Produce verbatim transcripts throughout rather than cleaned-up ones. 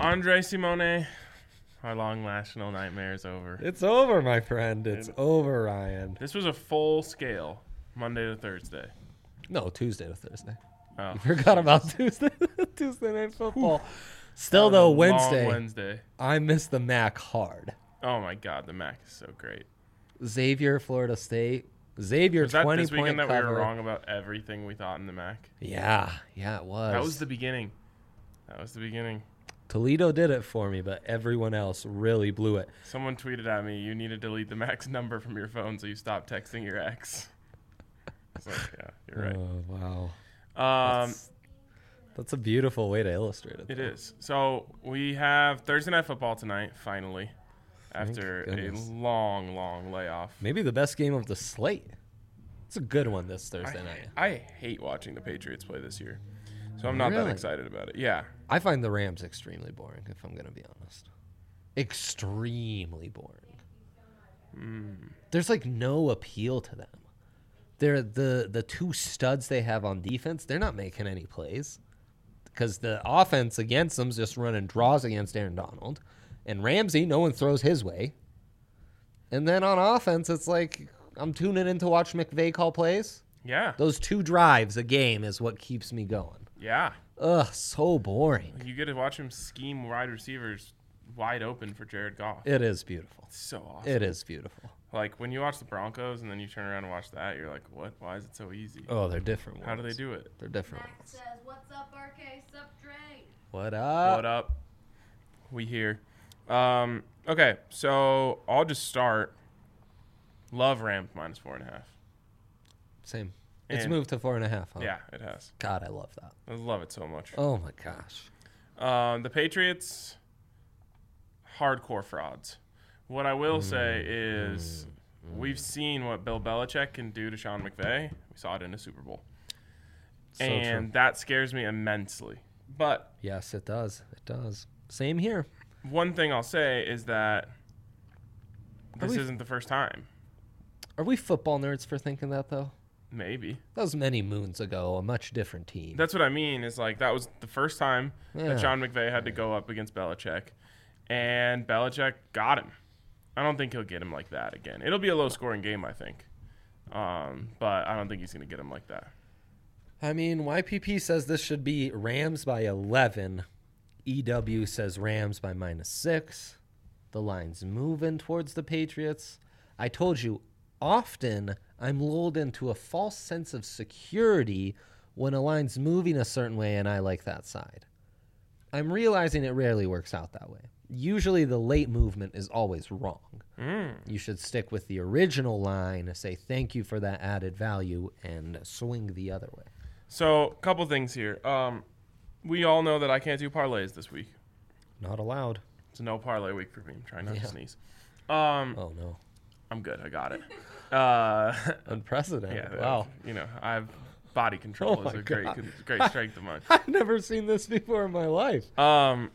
Andre Simone, our long national nightmare is over. It's over, my friend. It's it, over, Ryan. This was a full scale Monday to Thursday. No, Tuesday to Thursday. Oh, you forgot about Tuesday, Tuesday night football. Whew. Still, though, Wednesday. Wednesday. I miss the M A C hard. Oh, my God. The M A C is so great. Xavier, Florida State. Xavier, was that twenty this weekend point that cover. we were wrong about everything we thought in the M A C? Yeah. Yeah, it was. That was the beginning. That was the beginning. Toledo did it for me, but everyone else really blew it. Someone tweeted at me, you need to delete the M A C number from your phone so you stop texting your ex. I was like, yeah, you're right. Oh, wow. Um, that's, that's a beautiful way to illustrate it. It though. is. So we have Thursday Night Football tonight, finally, after a long, long layoff. Maybe the best game of the slate. It's a good one this Thursday I, night. I hate watching the Patriots play this year, so I'm not really? that excited about it. Yeah. I find the Rams extremely boring, if I'm going to be honest. Extremely boring. Mm. There's like no appeal to them. They're the the two studs they have on defense, they're not making any plays because the offense against them's just running draws against Aaron Donald. And Ramsey, no one throws his way. And then on offense, it's like I'm tuning in to watch McVay call plays. Yeah. Those two drives a game is what keeps me going. Yeah. Ugh, so boring. You get to watch him scheme wide receivers wide open for Jared Goff. It is beautiful. It's so awesome. It is beautiful. Like, when you watch the Broncos and then you turn around and watch that, you're like, what? Why is it so easy? Oh, they're different ones. How do they do it? They're different Max ones. says, what's up, R K? Sup, Dre? What up? What up? We here. Um, okay, so I'll just start. Love Rams minus four and a half. Same. It's And- moved to four and a half, huh? Yeah, it has. God, I love that. I love it so much. Oh, my gosh. Um, the Patriots, hardcore frauds. What I will say is mm, we've seen what Bill Belichick can do to Sean McVay. We saw it in the Super Bowl. So and true. that scares me immensely. But Yes, it does. It does. Same here. one thing I'll say is that this we- isn't the first time. Are we football nerds for thinking that, though? Maybe. That was many moons ago, a much different team. That's what I mean is like that was the first time Yeah. that Sean McVay had to go up against Belichick. And Belichick got him. I don't think he'll get him like that again. It'll be a low-scoring game, I think. Um, but I don't think he's going to get him like that. I mean, Y P P says this should be Rams by eleven. E W says Rams by minus six. The line's moving towards the Patriots. I told you, often I'm lulled into a false sense of security when a line's moving a certain way and I like that side. I'm realizing it rarely works out that way. Usually the late movement is always wrong. Mm. You should stick with the original line, say thank you for that added value, and swing the other way. So, a couple things here. Um, we all know that I can't do parlays this week. Not allowed. It's a no parlay week for me. I'm trying not Yeah. to sneeze. Um, Oh, no. I'm good. I got it. Uh, Unprecedented. yeah, Wow. You know, I have body control Oh is my a great, God. great strength of mine. I've never seen this before in my life. Um,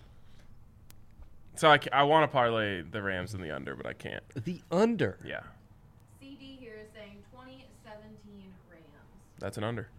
so I, ca- I want to parlay the Rams in the under, but I can't. The under. Yeah, C D here is saying twenty seventeen Rams. that's an under.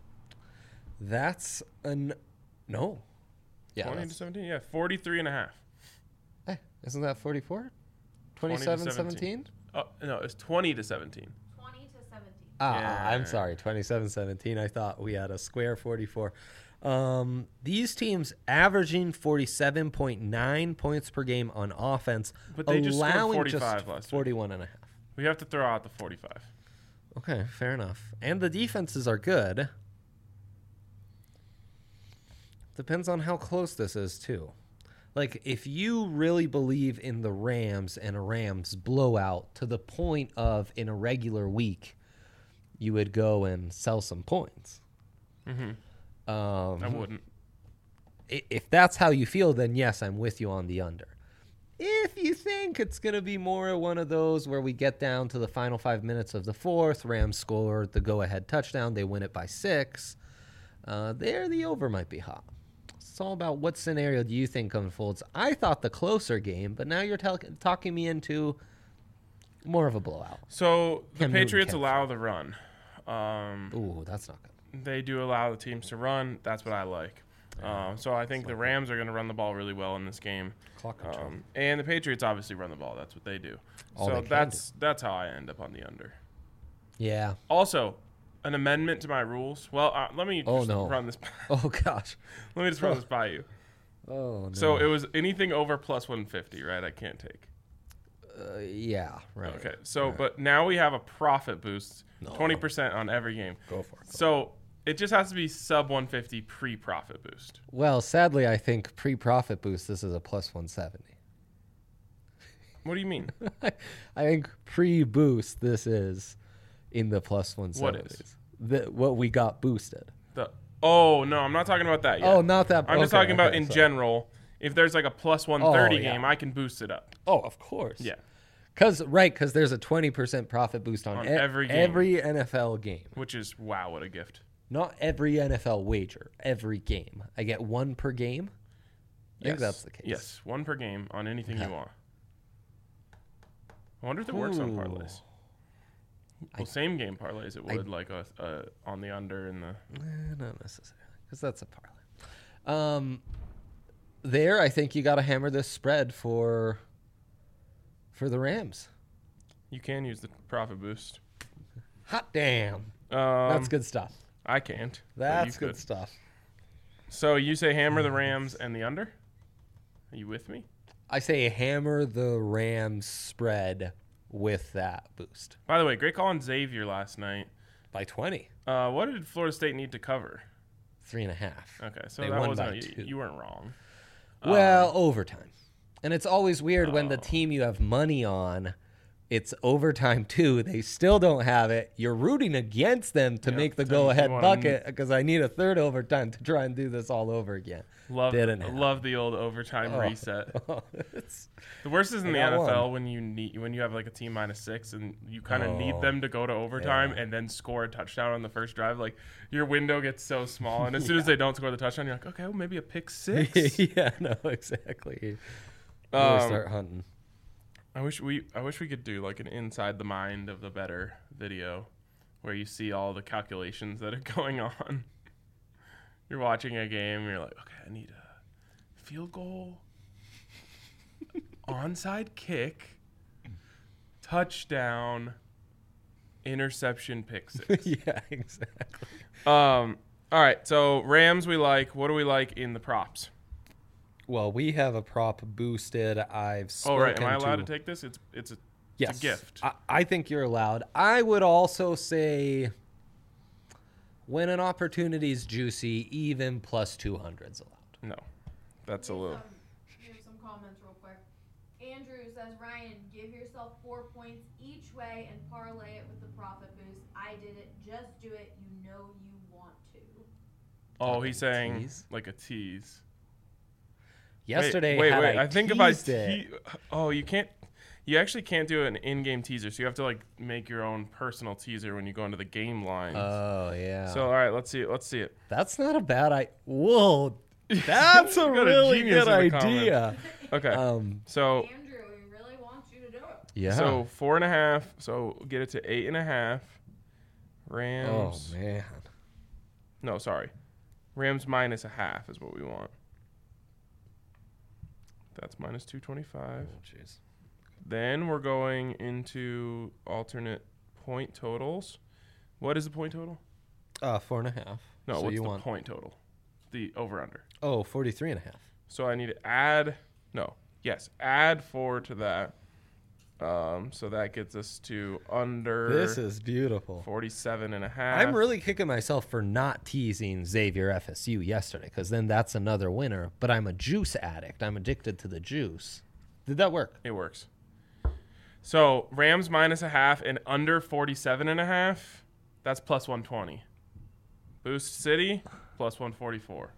That's an no. Yeah. twenty to that's- seventeen. Yeah, forty-three and a half. eh, isn't that forty-four? twenty to twenty-seven seventeen? Oh no, it's twenty to seventeen. twenty to seventeen. Ah, Yeah. I'm sorry. twenty-seven seventeen. I thought we had a square forty-four. Um, these teams averaging forty-seven point nine points per game on offense, But they just scored allowing forty-five just last week. forty-one and a half. We have to throw out the forty-five. Okay, fair enough. And the defenses are good. Depends on how close this is, too. Like, if you really believe in the Rams and a Rams blowout to the point of, in a regular week, you would go and sell some points. Mm-hmm. Um, I wouldn't. i- If that's how you feel, then yes, I'm with you on the under. If you think it's going to be more one of those where we get down to the final five minutes of the fourth, Rams score the go-ahead touchdown, they win it by six, uh, there the over might be hot. It's all about what scenario do you think unfolds. I thought the closer game, but now you're tel- talking me into more of a blowout. So the Cam Newton Patriots can't allow the run. Um, Ooh, that's not good. they do allow the teams to run. That's what I like. Um, so I think the Rams are going to run the ball really well in this game. Clock control. Um, and the Patriots obviously run the ball. That's what they do. All so they can that's that's how I end up on the under. Yeah. Also, an amendment to my rules. Well, uh, let me Oh, just no. run this. Oh gosh. Let me just run this by you. Oh no. So it was anything over plus one fifty, right? I can't take. Uh, yeah. Right. Okay. So, Right. but now we have a profit boost, No. twenty percent on every game. Go for it. Go. So it just has to be sub one fifty pre-profit boost. Well, sadly, I think pre-profit boost. This is a plus one seventy. What do you mean? I think pre-boost. This is in the plus one What seventies. is? The, what we got boosted. The oh no, I'm not talking about that yet. Oh, not that. I'm just okay, talking about okay, in sorry. general. If there's like a plus one thirty Oh, yeah. game, I can boost it up. Oh, of course. Yeah, Cause right, cause there's a twenty percent profit boost on, On e- every game. every N F L game. which is wow, what a gift. Not every N F L wager. Every game. I get one per game. I think Yes. that's the case. Yes, one per game on anything Okay. you want. I wonder if it works on Ooh. parlays. I- Well, same game parlays it I- would like a, a on the under and the. Eh, not necessarily, because that's a parlay. Um, there, I think you got to hammer this spread for for the Rams. You can use the profit boost. Hot damn, Um, that's good stuff. I can't. but you That's good could. stuff. So you say hammer the Rams and the under? Are you with me? I say hammer the Rams spread with that boost By the way, great call on Xavier last night. by twenty, Uh, what did Florida State need to cover? three and a half. Okay, so They that won wasn't by you, two. you weren't wrong. Well, overtime. And it's always weird when the Oh. team you have money on, it's overtime too. They still don't have it. You're rooting against them to Yeah, make the to- go ahead you wanna- bucket because I need a third overtime to try and do this all over again. Love, Didn't happen. love the old overtime Oh. reset. It's- The worst is in I the got N F L one. when you need when you have like a team minus six and you kind of need Oh, them to go to overtime yeah. and then score a touchdown on the first drive. Like your window gets so small, and as soon as they don't score the touchdown, you're like, okay, well maybe a pick six. yeah, no, exactly. Really Um, start hunting. I wish we I wish we could do like an inside the mind of the better video where you see all the calculations that are going on. You're watching a game, you're like, okay, I need a field goal, onside kick, touchdown, interception, pick six. yeah, exactly. Um all right, so Rams we like. What do we like in the props? Well, we have a prop boosted. I've Oh spoken right, am I allowed to, to take this? It's it's a Yes. it's a gift. I, I think you're allowed. I would also say when an opportunity is juicy, even plus two hundred is allowed. No. That's a Here's little some- Here's some comments real quick. Andrew says, Ryan, give yourself four points each way and parlay it with the profit boost. I did it. Just do it. You know you want to. Oh, Talking he's saying tease? like a tease. Yesterday, wait, had wait, wait. I, I think if I teased it, te- oh, you can't. You actually can't do an in-game teaser, so you have to like make your own personal teaser when you go into the game lines. oh yeah. So all right, let's see it. Let's see it. that's not a bad idea. Whoa, that's a You got a really genius good in the idea. Okay, Um, so Andrew, we really want you to do it. yeah. so four and a half. So get it to eight and a half. oh Rams. man. No, sorry. Rams minus a half is what we want. That's minus two twenty-five. Oh jeez. Then we're going into alternate point totals. What is the point total? Uh, four and a half. No, so what's you the want? point total? The over under. Oh, forty-three and a half. So I need to add no, yes, add four to that. Um, so that gets us to under This is beautiful. forty-seven and a half. I'm really kicking myself for not teasing Xavier F S U yesterday because then that's another winner. But I'm a juice addict. I'm addicted to the juice. Did that work? It works. So Rams minus a half and under forty-seven and a half. That's plus one twenty. Boost City plus one forty-four.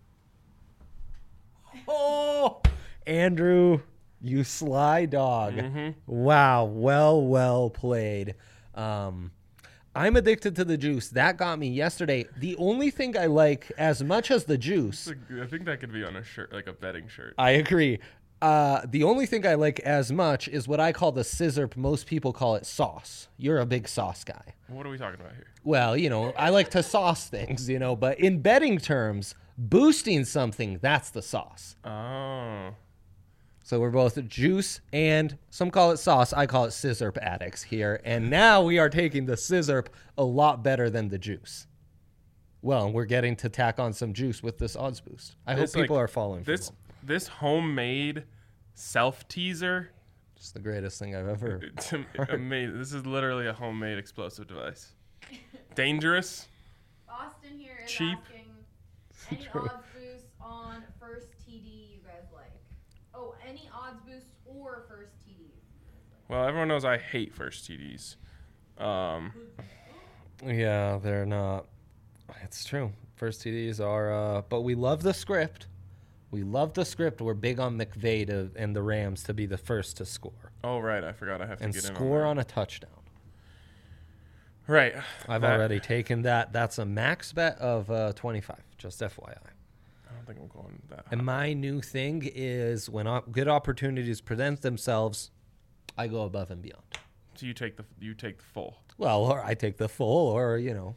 Oh, Andrew, you sly dog. Mm-hmm. Wow. Well, well played. Um, I'm addicted to the juice. That got me yesterday. The only thing I like as much as the juice, I think that could be on a shirt, like a betting shirt. I agree. Uh, the only thing I like as much is what I call the scissor. Most people call it sauce. You're a big sauce guy. What are we talking about here? Well, you know, I like to sauce things, you know, but in betting terms, Boosting something, that's the sauce. Oh. So we're both juice and some call it sauce. I call it scissorp addicts here. And now we are taking the scissorp a lot better than the juice. Well, we're getting to tack on some juice with this odds boost. I This, hope people like, are following This from them. this homemade self teaser. It's the greatest thing I've ever It's am- amazing. This is literally a homemade explosive device. Dangerous. Austin here is Cheap. asking any True. odds boosts on first T D you guys like. Oh, any odds boosts or first T Ds. Well, everyone knows I hate first T Ds. Um, Yeah, they're not. It's true. First T Ds are, uh, but we love the script. We love the script. We're big on McVay to, and the Rams to be the first to score oh, right. I forgot I have to and get in score on, on a touchdown. that. Right. I've That- already taken that. That's a max bet of uh, twenty-five. Just F Y I. I don't think I'm going that high. And my new thing is when op- good opportunities present themselves, I go above and beyond. So you take the you take the full. Well, or I take the full, or you know,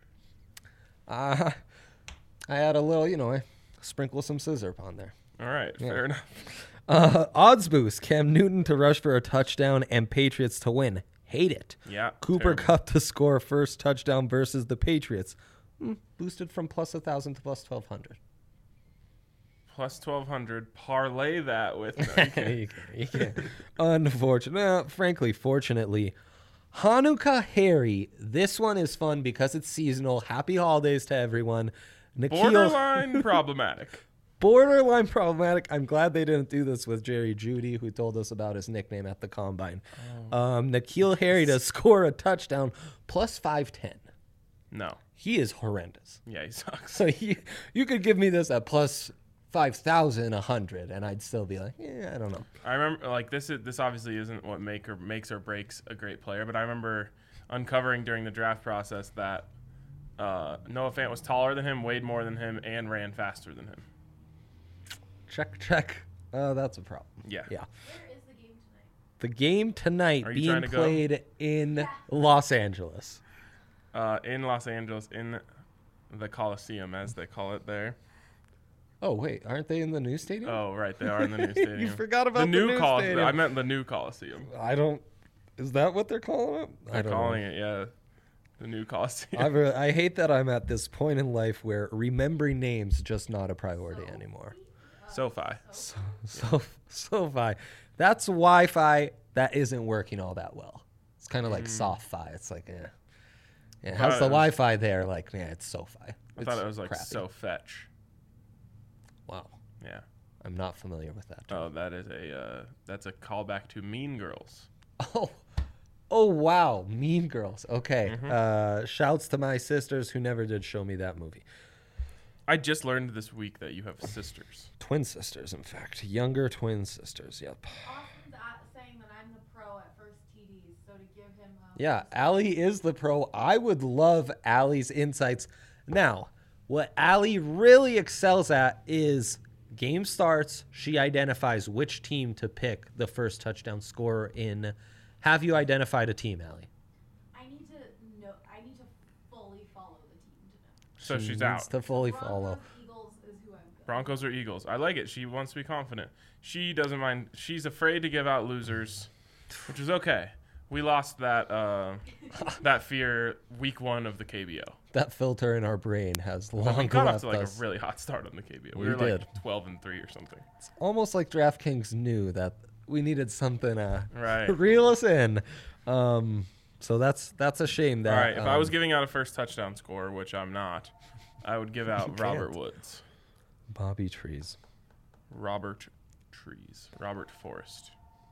uh, I add a little, you know, I sprinkle some scissorp on there. All right. Yeah. Fair enough. Uh, odds boost: Cam Newton to rush for a touchdown and Patriots to win. Hate it. Yeah. Cooper terrible. Kupp to score first touchdown versus the Patriots. Hmm, boosted from plus a thousand to plus twelve hundred. Plus twelve hundred. Parlay that with. No, you can't. you can't. You can't. Unfortunately, well, frankly, fortunately, Hanukkah Harry. This one is fun because it's seasonal. Happy holidays to everyone. Nikhil, Borderline problematic. borderline problematic. I'm glad they didn't do this with Jerry Judy, who told us about his nickname at the combine. Um, Nikhil Harry to score a touchdown plus five ten. No. He is horrendous. Yeah, he sucks. So you you could give me this at plus five thousand a hundred, and I'd still be like, yeah, I don't know. I remember, like, this is this obviously isn't what make or makes or breaks a great player, but I remember uncovering during the draft process that uh, Noah Fant was taller than him, weighed more than him, and ran faster than him. Check, check. Oh, that's a problem. Yeah. Yeah. Where is the game tonight? The game tonight Are you being trying to go? played in Yeah. Los Angeles. Uh, in Los Angeles, in the Coliseum, as they call it there. Oh, wait. Aren't they in the new stadium? Oh, right, they are in the new stadium. You forgot about the the new, new Col- stadium. I meant the new Coliseum. I don't. Is that what they're calling it? I They're don't calling know. it, yeah, the new Coliseum. I've re- I hate that I'm at this point in life where remembering names just not a priority anymore. SoFi. So, so, SoFi. That's Wi-Fi that isn't working all that well. It's kind of like SoFi. It's like, eh. Yeah, how's thought the it was- Wi-Fi there? Like, yeah, it's SoFi. I thought it was like crappy. So Fetch. Wow. Yeah. I'm not familiar with that. term. Oh, that is a uh, that's a callback to Mean Girls. Oh, oh wow, Mean Girls. Okay. Mm-hmm. Uh, shouts to my sisters who never did show me that movie. I just learned this week that you have sisters. Twin sisters, in fact, younger twin sisters. Yep. Austin's at saying that I'm the pro at first T Ds, so to give him a Yeah, Allie is the pro. I would love Allie's insights. Now, what Allie really excels at is game starts. She identifies which team to pick the first touchdown scorer in. Have you identified a team, Allie? I need to know. I need to fully follow the team to know. So She she's needs out. to fully Broncos, follow. Eagles is who I'm going. Broncos or Eagles. I like it. She wants to be confident. She doesn't mind. She's afraid to give out losers, which is okay. We lost that uh, that fear week one of the K B O. That filter in our brain has But long we got off left to like us. a really hot start on the K B O. We, We were did. like twelve and three or something. It's almost like DraftKings knew that we needed something uh, Right. to reel us in. Um, so that's that's a shame that. All right. If I was um, giving out a first touchdown score, which I'm not, I would give out can't. Robert Woods, Bobby Trees. Robert Trees, Robert Forrest.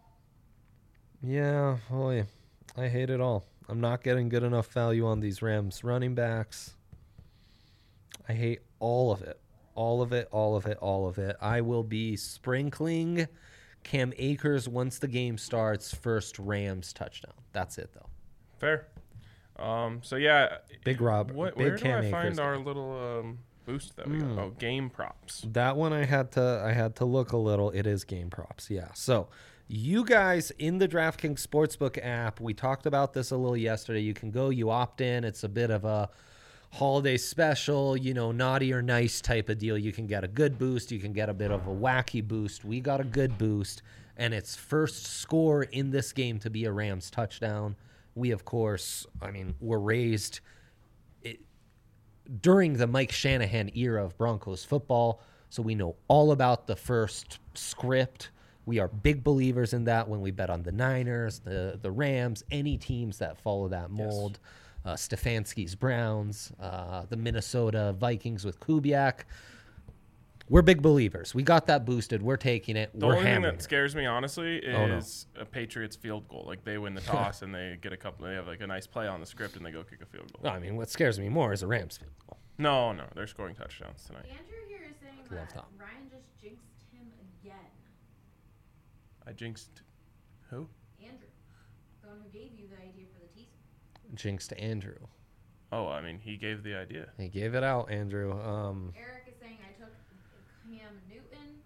Yeah, boy, I hate it all. I'm not getting good enough value on these Rams running backs. I hate all of it. All of it, all of it, all of it. I will be sprinkling Cam Akers once the game starts, first Rams touchdown. That's it, though. Fair. Um. So yeah. Big Rob. What, big where do Cam I Akers find guy. our little um, boost that we Mm. got? Oh, game props. That one I had to I had to look a little. It is game props, yeah. So you guys in the DraftKings Sportsbook app, we talked about this a little yesterday. You can go, you opt in. It's a bit of a holiday special, you know, naughty or nice type of deal. You can get a good boost. You can get a bit of a wacky boost. We got a good boost, and it's first score in this game to be a Rams touchdown. We, of course, I mean, were raised it, during the Mike Shanahan era of Broncos football, so we know all about the first script. We are big believers in that when we bet on the Niners, the, the Rams, any teams that follow that mold. Yes. Uh, Stefanski's Browns, uh, the Minnesota Vikings with Kubiak. We're big believers. We got that boosted. We're taking it. The We're only thing hammering that scares me, honestly, is Oh, no. a Patriots field goal. Like, they win the toss and they get a couple. They have like a nice play on the script and they go kick a field goal. I mean, what scares me more is a Rams field goal. No, no, they're scoring touchdowns tonight. Andrew here is saying Love that Tom. Ryan just jinxed him again. I jinxed who? Andrew, the one who gave you the idea for the teaser. Jinx to Andrew. Oh, I mean, he gave the idea. He gave it out, Andrew. Um, Eric is saying I took Cam Newton.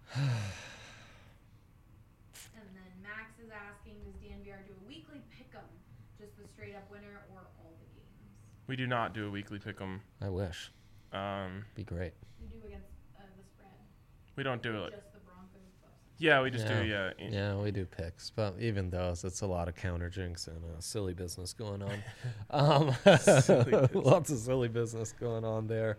And then Max is asking, does D N V R do a weekly pick'em, just the straight up winner or all the games? We do not do a weekly pick'em. I wish. Um, Be great. We do against uh, the spread. we don't do it. Just the Broncos Bucks. Yeah, we just Yeah. do. Yeah. in- Yeah, we do picks, but even those, it's a lot of counter jinx and uh, silly business going on. Um, Silly business. Lots of silly business going on there.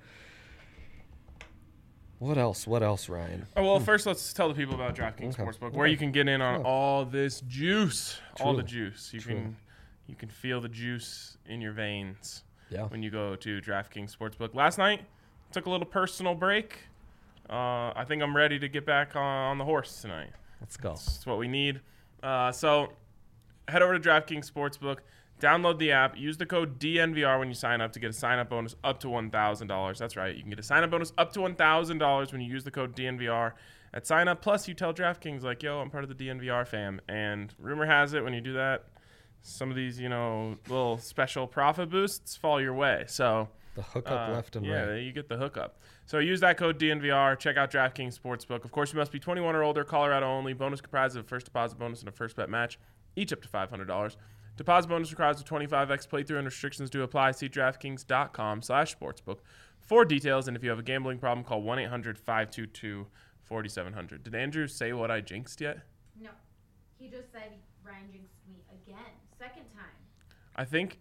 What else? What else, Ryan? Oh well, first let's tell the people about DraftKings Okay. Sportsbook, where Okay. you can get in on Oh. all this juice, all the True. juice. You True. can, you can feel the juice in your veins Yeah. when you go to DraftKings Sportsbook. Last night, took a little personal break. Uh, I think I'm ready to get back on, on the horse tonight. Let's go. That's what we need. Uh, so head over to DraftKings Sportsbook, download the app, use the code D N V R when you sign up to get a sign-up bonus up to one thousand dollars. That's right. You can get a sign-up bonus up to one thousand dollars when you use the code D N V R at sign-up. Plus, you tell DraftKings, like, yo, I'm part of the D N V R fam. And rumor has it, when you do that, some of these, you know, little special profit boosts fall your way. So The hookup uh, left and yeah, right. you get the hookup. So use that code D N V R. Check out DraftKings Sportsbook. Of course, you must be twenty-one or older, Colorado only. Bonus comprised of a first deposit bonus and a first bet match, each up to five hundred dollars. Deposit bonus requires a twenty-five x playthrough and restrictions do apply. See DraftKings.com slash sportsbook for details. And if you have a gambling problem, call one eight hundred five two two four seven zero zero. Did Andrew say what I jinxed yet? No. He just said Ryan jinxed me again. Second time. I think.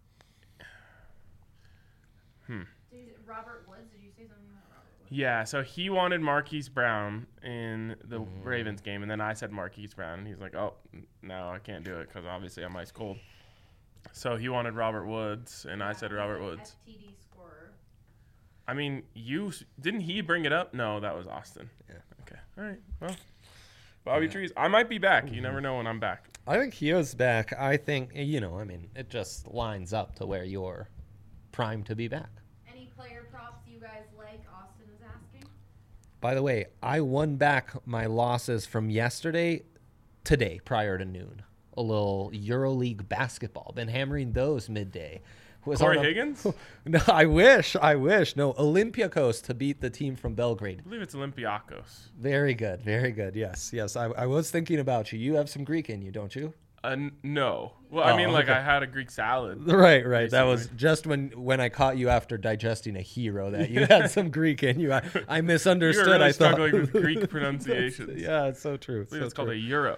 Hmm. Did you, Robert Woods, did you say something about Robert Woods? Yeah, so he wanted Marquise Brown in the Ravens game, and then I said Marquise Brown, and he's like, oh, n- no, I can't do it because obviously I'm ice cold. So he wanted Robert Woods, and I said Yeah, Robert he's an Woods. F T D scorer. I mean, you didn't he bring it up? No, that was Austin. Yeah. Okay. All right. Well, Bobby Yeah. Trees. I might be back. You never know when I'm back. I think he is back. I think, you know, I mean, it just lines up to where you're primed to be back. Any player props you guys like? Austin is asking. By the way, I won back my losses from yesterday today prior to noon. A little EuroLeague basketball. Been hammering those midday. Was Corey on a- Higgins? No, I wish. I wish. No, Olympiacos to beat the team from Belgrade. I believe it's Olympiakos. Very good. Very good. Yes. Yes. I, I was thinking about you. You have some Greek in you, don't you? Uh, n- no. Well, I Oh, mean, like, okay. I had a Greek salad. Right, right. That was Basically. just when when I caught you after digesting a hero that you had some Greek in you. I, I misunderstood. You were really I thought struggling with Greek pronunciations. Yeah, it's so true. I believe so it's called true. a euro.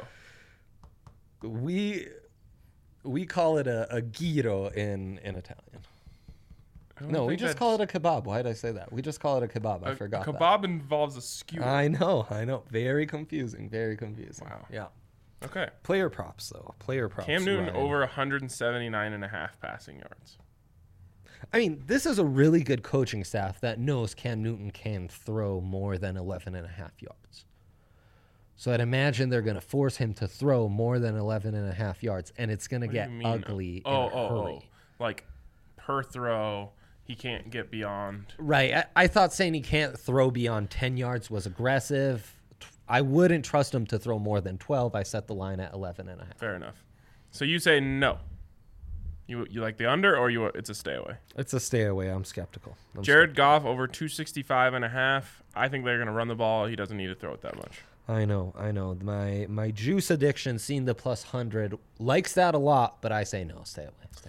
We we call it a, a gyro in in Italian. I don't No, we think just that's- call it a kebab. Why did I say that? We just call it a kebab. I a forgot that. kebab involves a skewer. I know, I know. Very confusing. Very confusing. Wow. Yeah. Okay. Player props though. Player props. Cam Newton Ryan. over one hundred seventy-nine and a half passing yards. I mean, this is a really good coaching staff that knows Cam Newton can throw more than eleven and a half yards. So I'd imagine they're going to force him to throw more than eleven and a half yards, and it's going to What do get you mean? ugly Oh, in a oh, hurry. oh. Like, per throw, he can't get beyond. Right. I, I thought saying he can't throw beyond ten yards was aggressive. I wouldn't trust him to throw more than twelve. I set the line at eleven and a half. Fair enough. So you say no. You you like the under, or you it's a stay away? It's a stay away. I'm skeptical. I'm Jared Goff over two sixty-five and a half. I think they're going to run the ball. He doesn't need to throw it that much. I know, I know. My my juice addiction, seeing the plus one hundred, likes that a lot, but I say no. Stay away. Stay away.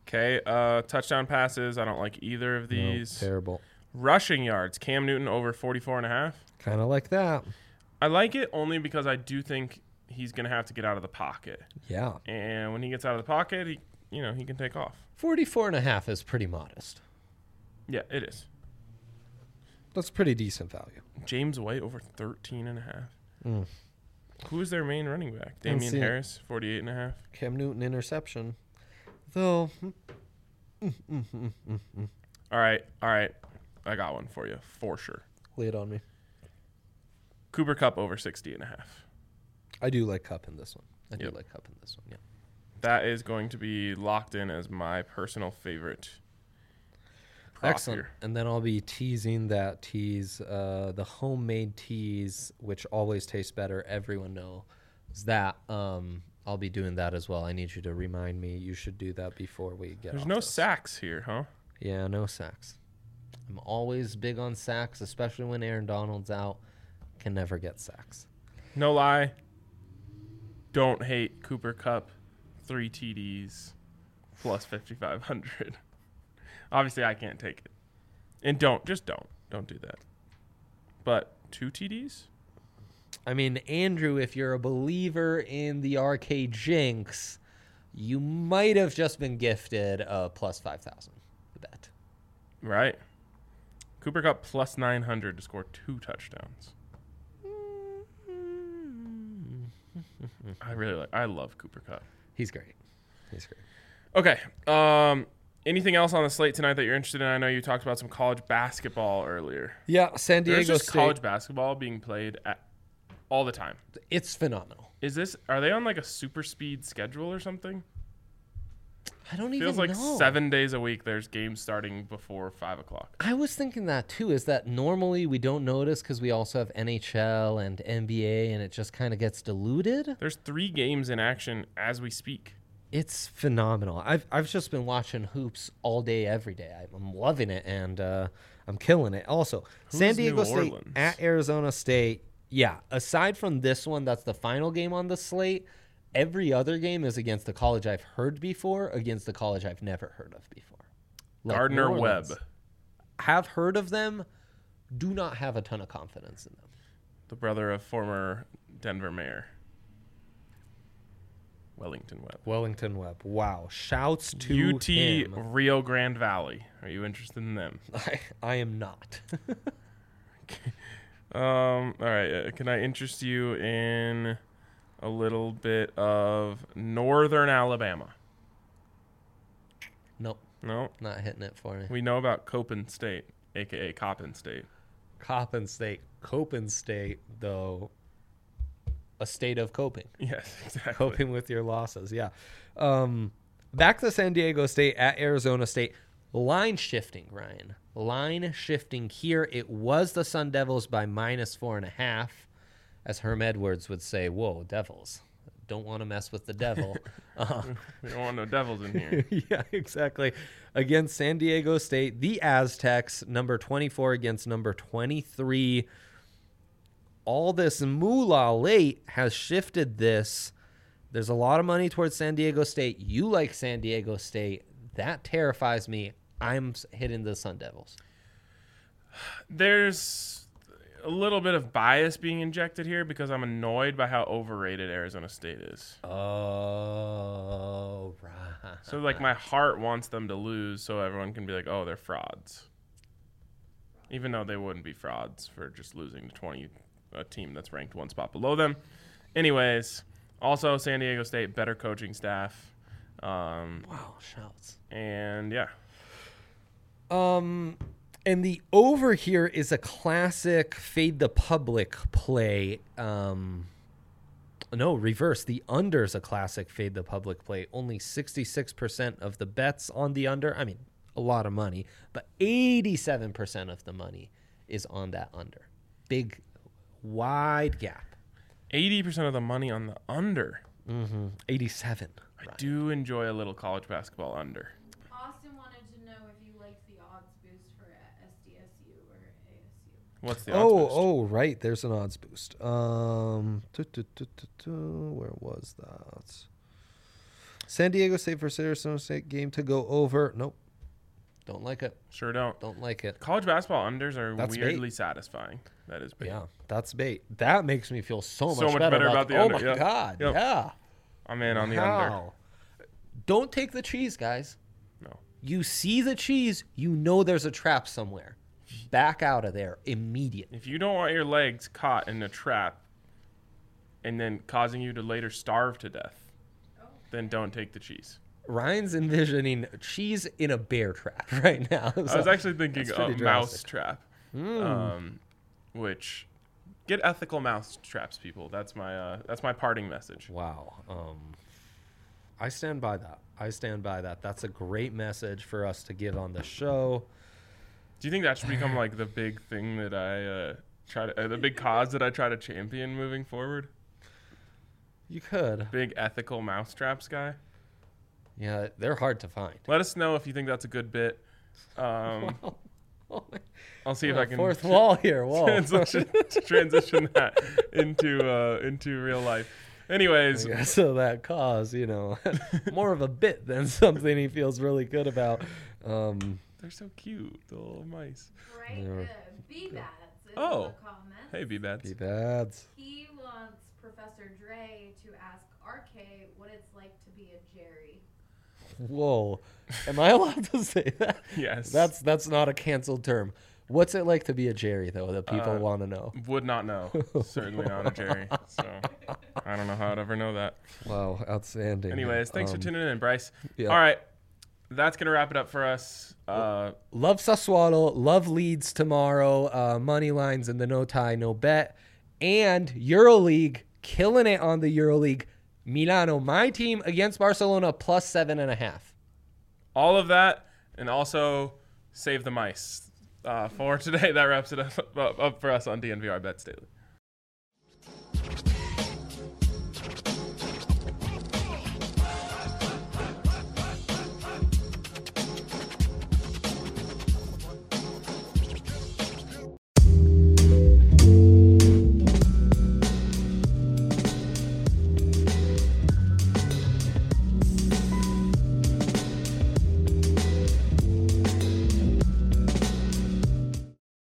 Okay, uh, touchdown passes. I don't like either of these. No, terrible. Rushing yards. Cam Newton over forty-four and a half. Kind of like that. I like it only because I do think he's going to have to get out of the pocket. Yeah. And when he gets out of the pocket, he, you know, he can take off. forty-four and a half is pretty modest. Yeah, it is. That's pretty decent value. James White over thirteen and a half. Mm. Who is their main running back? Don't Damian see it. Harris, forty-eight and a half. Cam Newton interception. Though. mm, mm, mm, mm, mm, mm. All right, all right. I got one for you, for sure. Lay it on me. Cooper Kupp over sixty and a half. I do like Cup in this one. I do Yep. like Cup in this one, yeah. That is going to be locked in as my personal favorite prop Excellent. here. And then I'll be teasing that tease, uh, the homemade tease, which always tastes better. Everyone knows that. Um, I'll be doing that as well. I need you to remind me. You should do that before we get There's off no this. sacks here, huh? Yeah, no sacks. I'm always big on sacks, especially when Aaron Donald's out. Can never get sacks. No lie. Don't hate Cooper Kupp. Three T Ds plus fifty-five hundred. Obviously, I can't take it. And don't. Just don't. Don't do that. But two T Ds? I mean, Andrew, if you're a believer in the R K Jinx, you might have just been gifted a plus five thousand. Bet. Right. Cooper Kupp plus nine hundred to score two touchdowns. I really like. I love Cooper Kupp. He's great. He's great. Okay. Um, anything else on the slate tonight that you're interested in? I know you talked about some college basketball earlier. Yeah, San Diego There's just State. college basketball being played at all the time. It's phenomenal. Is this? Are they on like a super speed schedule or something? I don't even Feels like know. seven days a week. There's games starting before five o'clock. I was thinking that too. Is that normally we don't notice because we also have N H L and N B A, and it just kind of gets diluted. There's three games in action as we speak. It's phenomenal. I've I've just been watching hoops all day, every day. I'm loving it, and uh, I'm killing it. Also, Who's San Diego New State Orleans? at Arizona State. Yeah. Aside from this one, that's the final game on the slate. Every other game is against the college I've heard before, against the college I've never heard of before. Like Gardner New Webb. Orleans. Have heard of them. Do not have a ton of confidence in them. The brother of former Denver mayor Wellington Webb. Wellington Webb. Wow. Shouts to U T him. Rio Grande Valley. Are you interested in them? I, I am not. Um. All right. Uh, can I interest you in a little bit of Northern Alabama? Nope. No. Not hitting it for me. We know about Copen State, aka Coppin State. Coppin State. Copen State, though, a state of coping. Yes, exactly. Coping with your losses, yeah. Um, back to San Diego State at Arizona State. Line shifting, Ryan. Line shifting here. It was the Sun Devils by minus four and a half. As Herm Edwards would say, whoa, Devils. Don't want to mess with the devil. uh, We don't want no devils in here. yeah, exactly. Against San Diego State, the Aztecs, number twenty-four against number twenty-three. All this moolah late has shifted this. There's a lot of money towards San Diego State. You like San Diego State. That terrifies me. I'm s- hitting the Sun Devils. There's a little bit of bias being injected here because I'm annoyed by how overrated Arizona State is. Oh, right. So, like, my heart wants them to lose so everyone can be like, oh, they're frauds. Even though they wouldn't be frauds for just losing to twenty, a team that's ranked one spot below them. Anyways, also San Diego State, better coaching staff. Um, Wow, shouts. and, yeah. Um, and the over here is a classic fade the public play. Um, no, reverse. The under is a classic fade the public play. Only sixty-six percent of the bets on the under. I mean, a lot of money, but eighty-seven percent of the money is on that under. Big, wide gap. eighty percent of the money on the under. Mm-hmm. eighty-seven. I do enjoy a little college basketball under. Austin wanted to know if you liked the odds boost for S D S U or A S U. What's the odds Oh, boost? oh, right. There's an odds boost. Um, tu- tu- tu- tu- tu, where was that? San Diego State versus Arizona State game to go over. Nope. Don't like it. Sure don't. Don't like it. College basketball unders are That's weirdly bait. satisfying. That is bait. Yeah, that's bait. That makes me feel so much, So much better, better about the oh under, my yeah. God. Yep. Yeah. I'm in on the under. Wow. Don't take the cheese, guys. No. You see the cheese, you know there's a trap somewhere. Back out of there immediately. If you don't want your legs caught in a trap and then causing you to later starve to death, then don't take the cheese. Ryan's envisioning cheese in a bear trap right now. I was actually thinking that's a pretty mouse drastic. trap, Mm. um, which get ethical mouse traps, people. That's my uh, that's my parting message. Wow. Um, I stand by that. I stand by that. That's a great message for us to give on the show. Do you think that should become like the big thing that I uh, try to, uh, the big cause that I try to champion moving forward? You could. Big ethical mouse traps guy. Yeah, they're hard to find. Let us know if you think that's a good bit. Um, I'll see if I can Fourth wall here. Whoa. transition transition that into uh, into real life. Anyways, Yeah, so that cause, you know, more of a bit than something he feels really good about. Um, they're so cute, the little mice. Right? Yeah. Uh, B-Bats is Oh. in the comments. Hey, B-Bats. be bad. He wants Professor Dre to ask R K what it's like to be a Jerry. Whoa. Am I allowed to say that? Yes. That's that's not a canceled term. What's it like to be a Jerry, though, that people Uh, want to know? Would not know. Certainly not a Jerry. So I don't know how I'd ever know that. Wow, outstanding. Anyways, thanks Um, for tuning in, Bryce. yeah. All right. That's going to wrap it up for us. Uh, Love Sassuolo. Love Leeds tomorrow. Uh, money lines in the no tie, no bet. And EuroLeague, killing it on the EuroLeague. Milano, my team against Barcelona, plus seven and a half. all of that, and also save the mice. Uh, for today, that wraps it up, up, up for us on D N V R Bets Daily.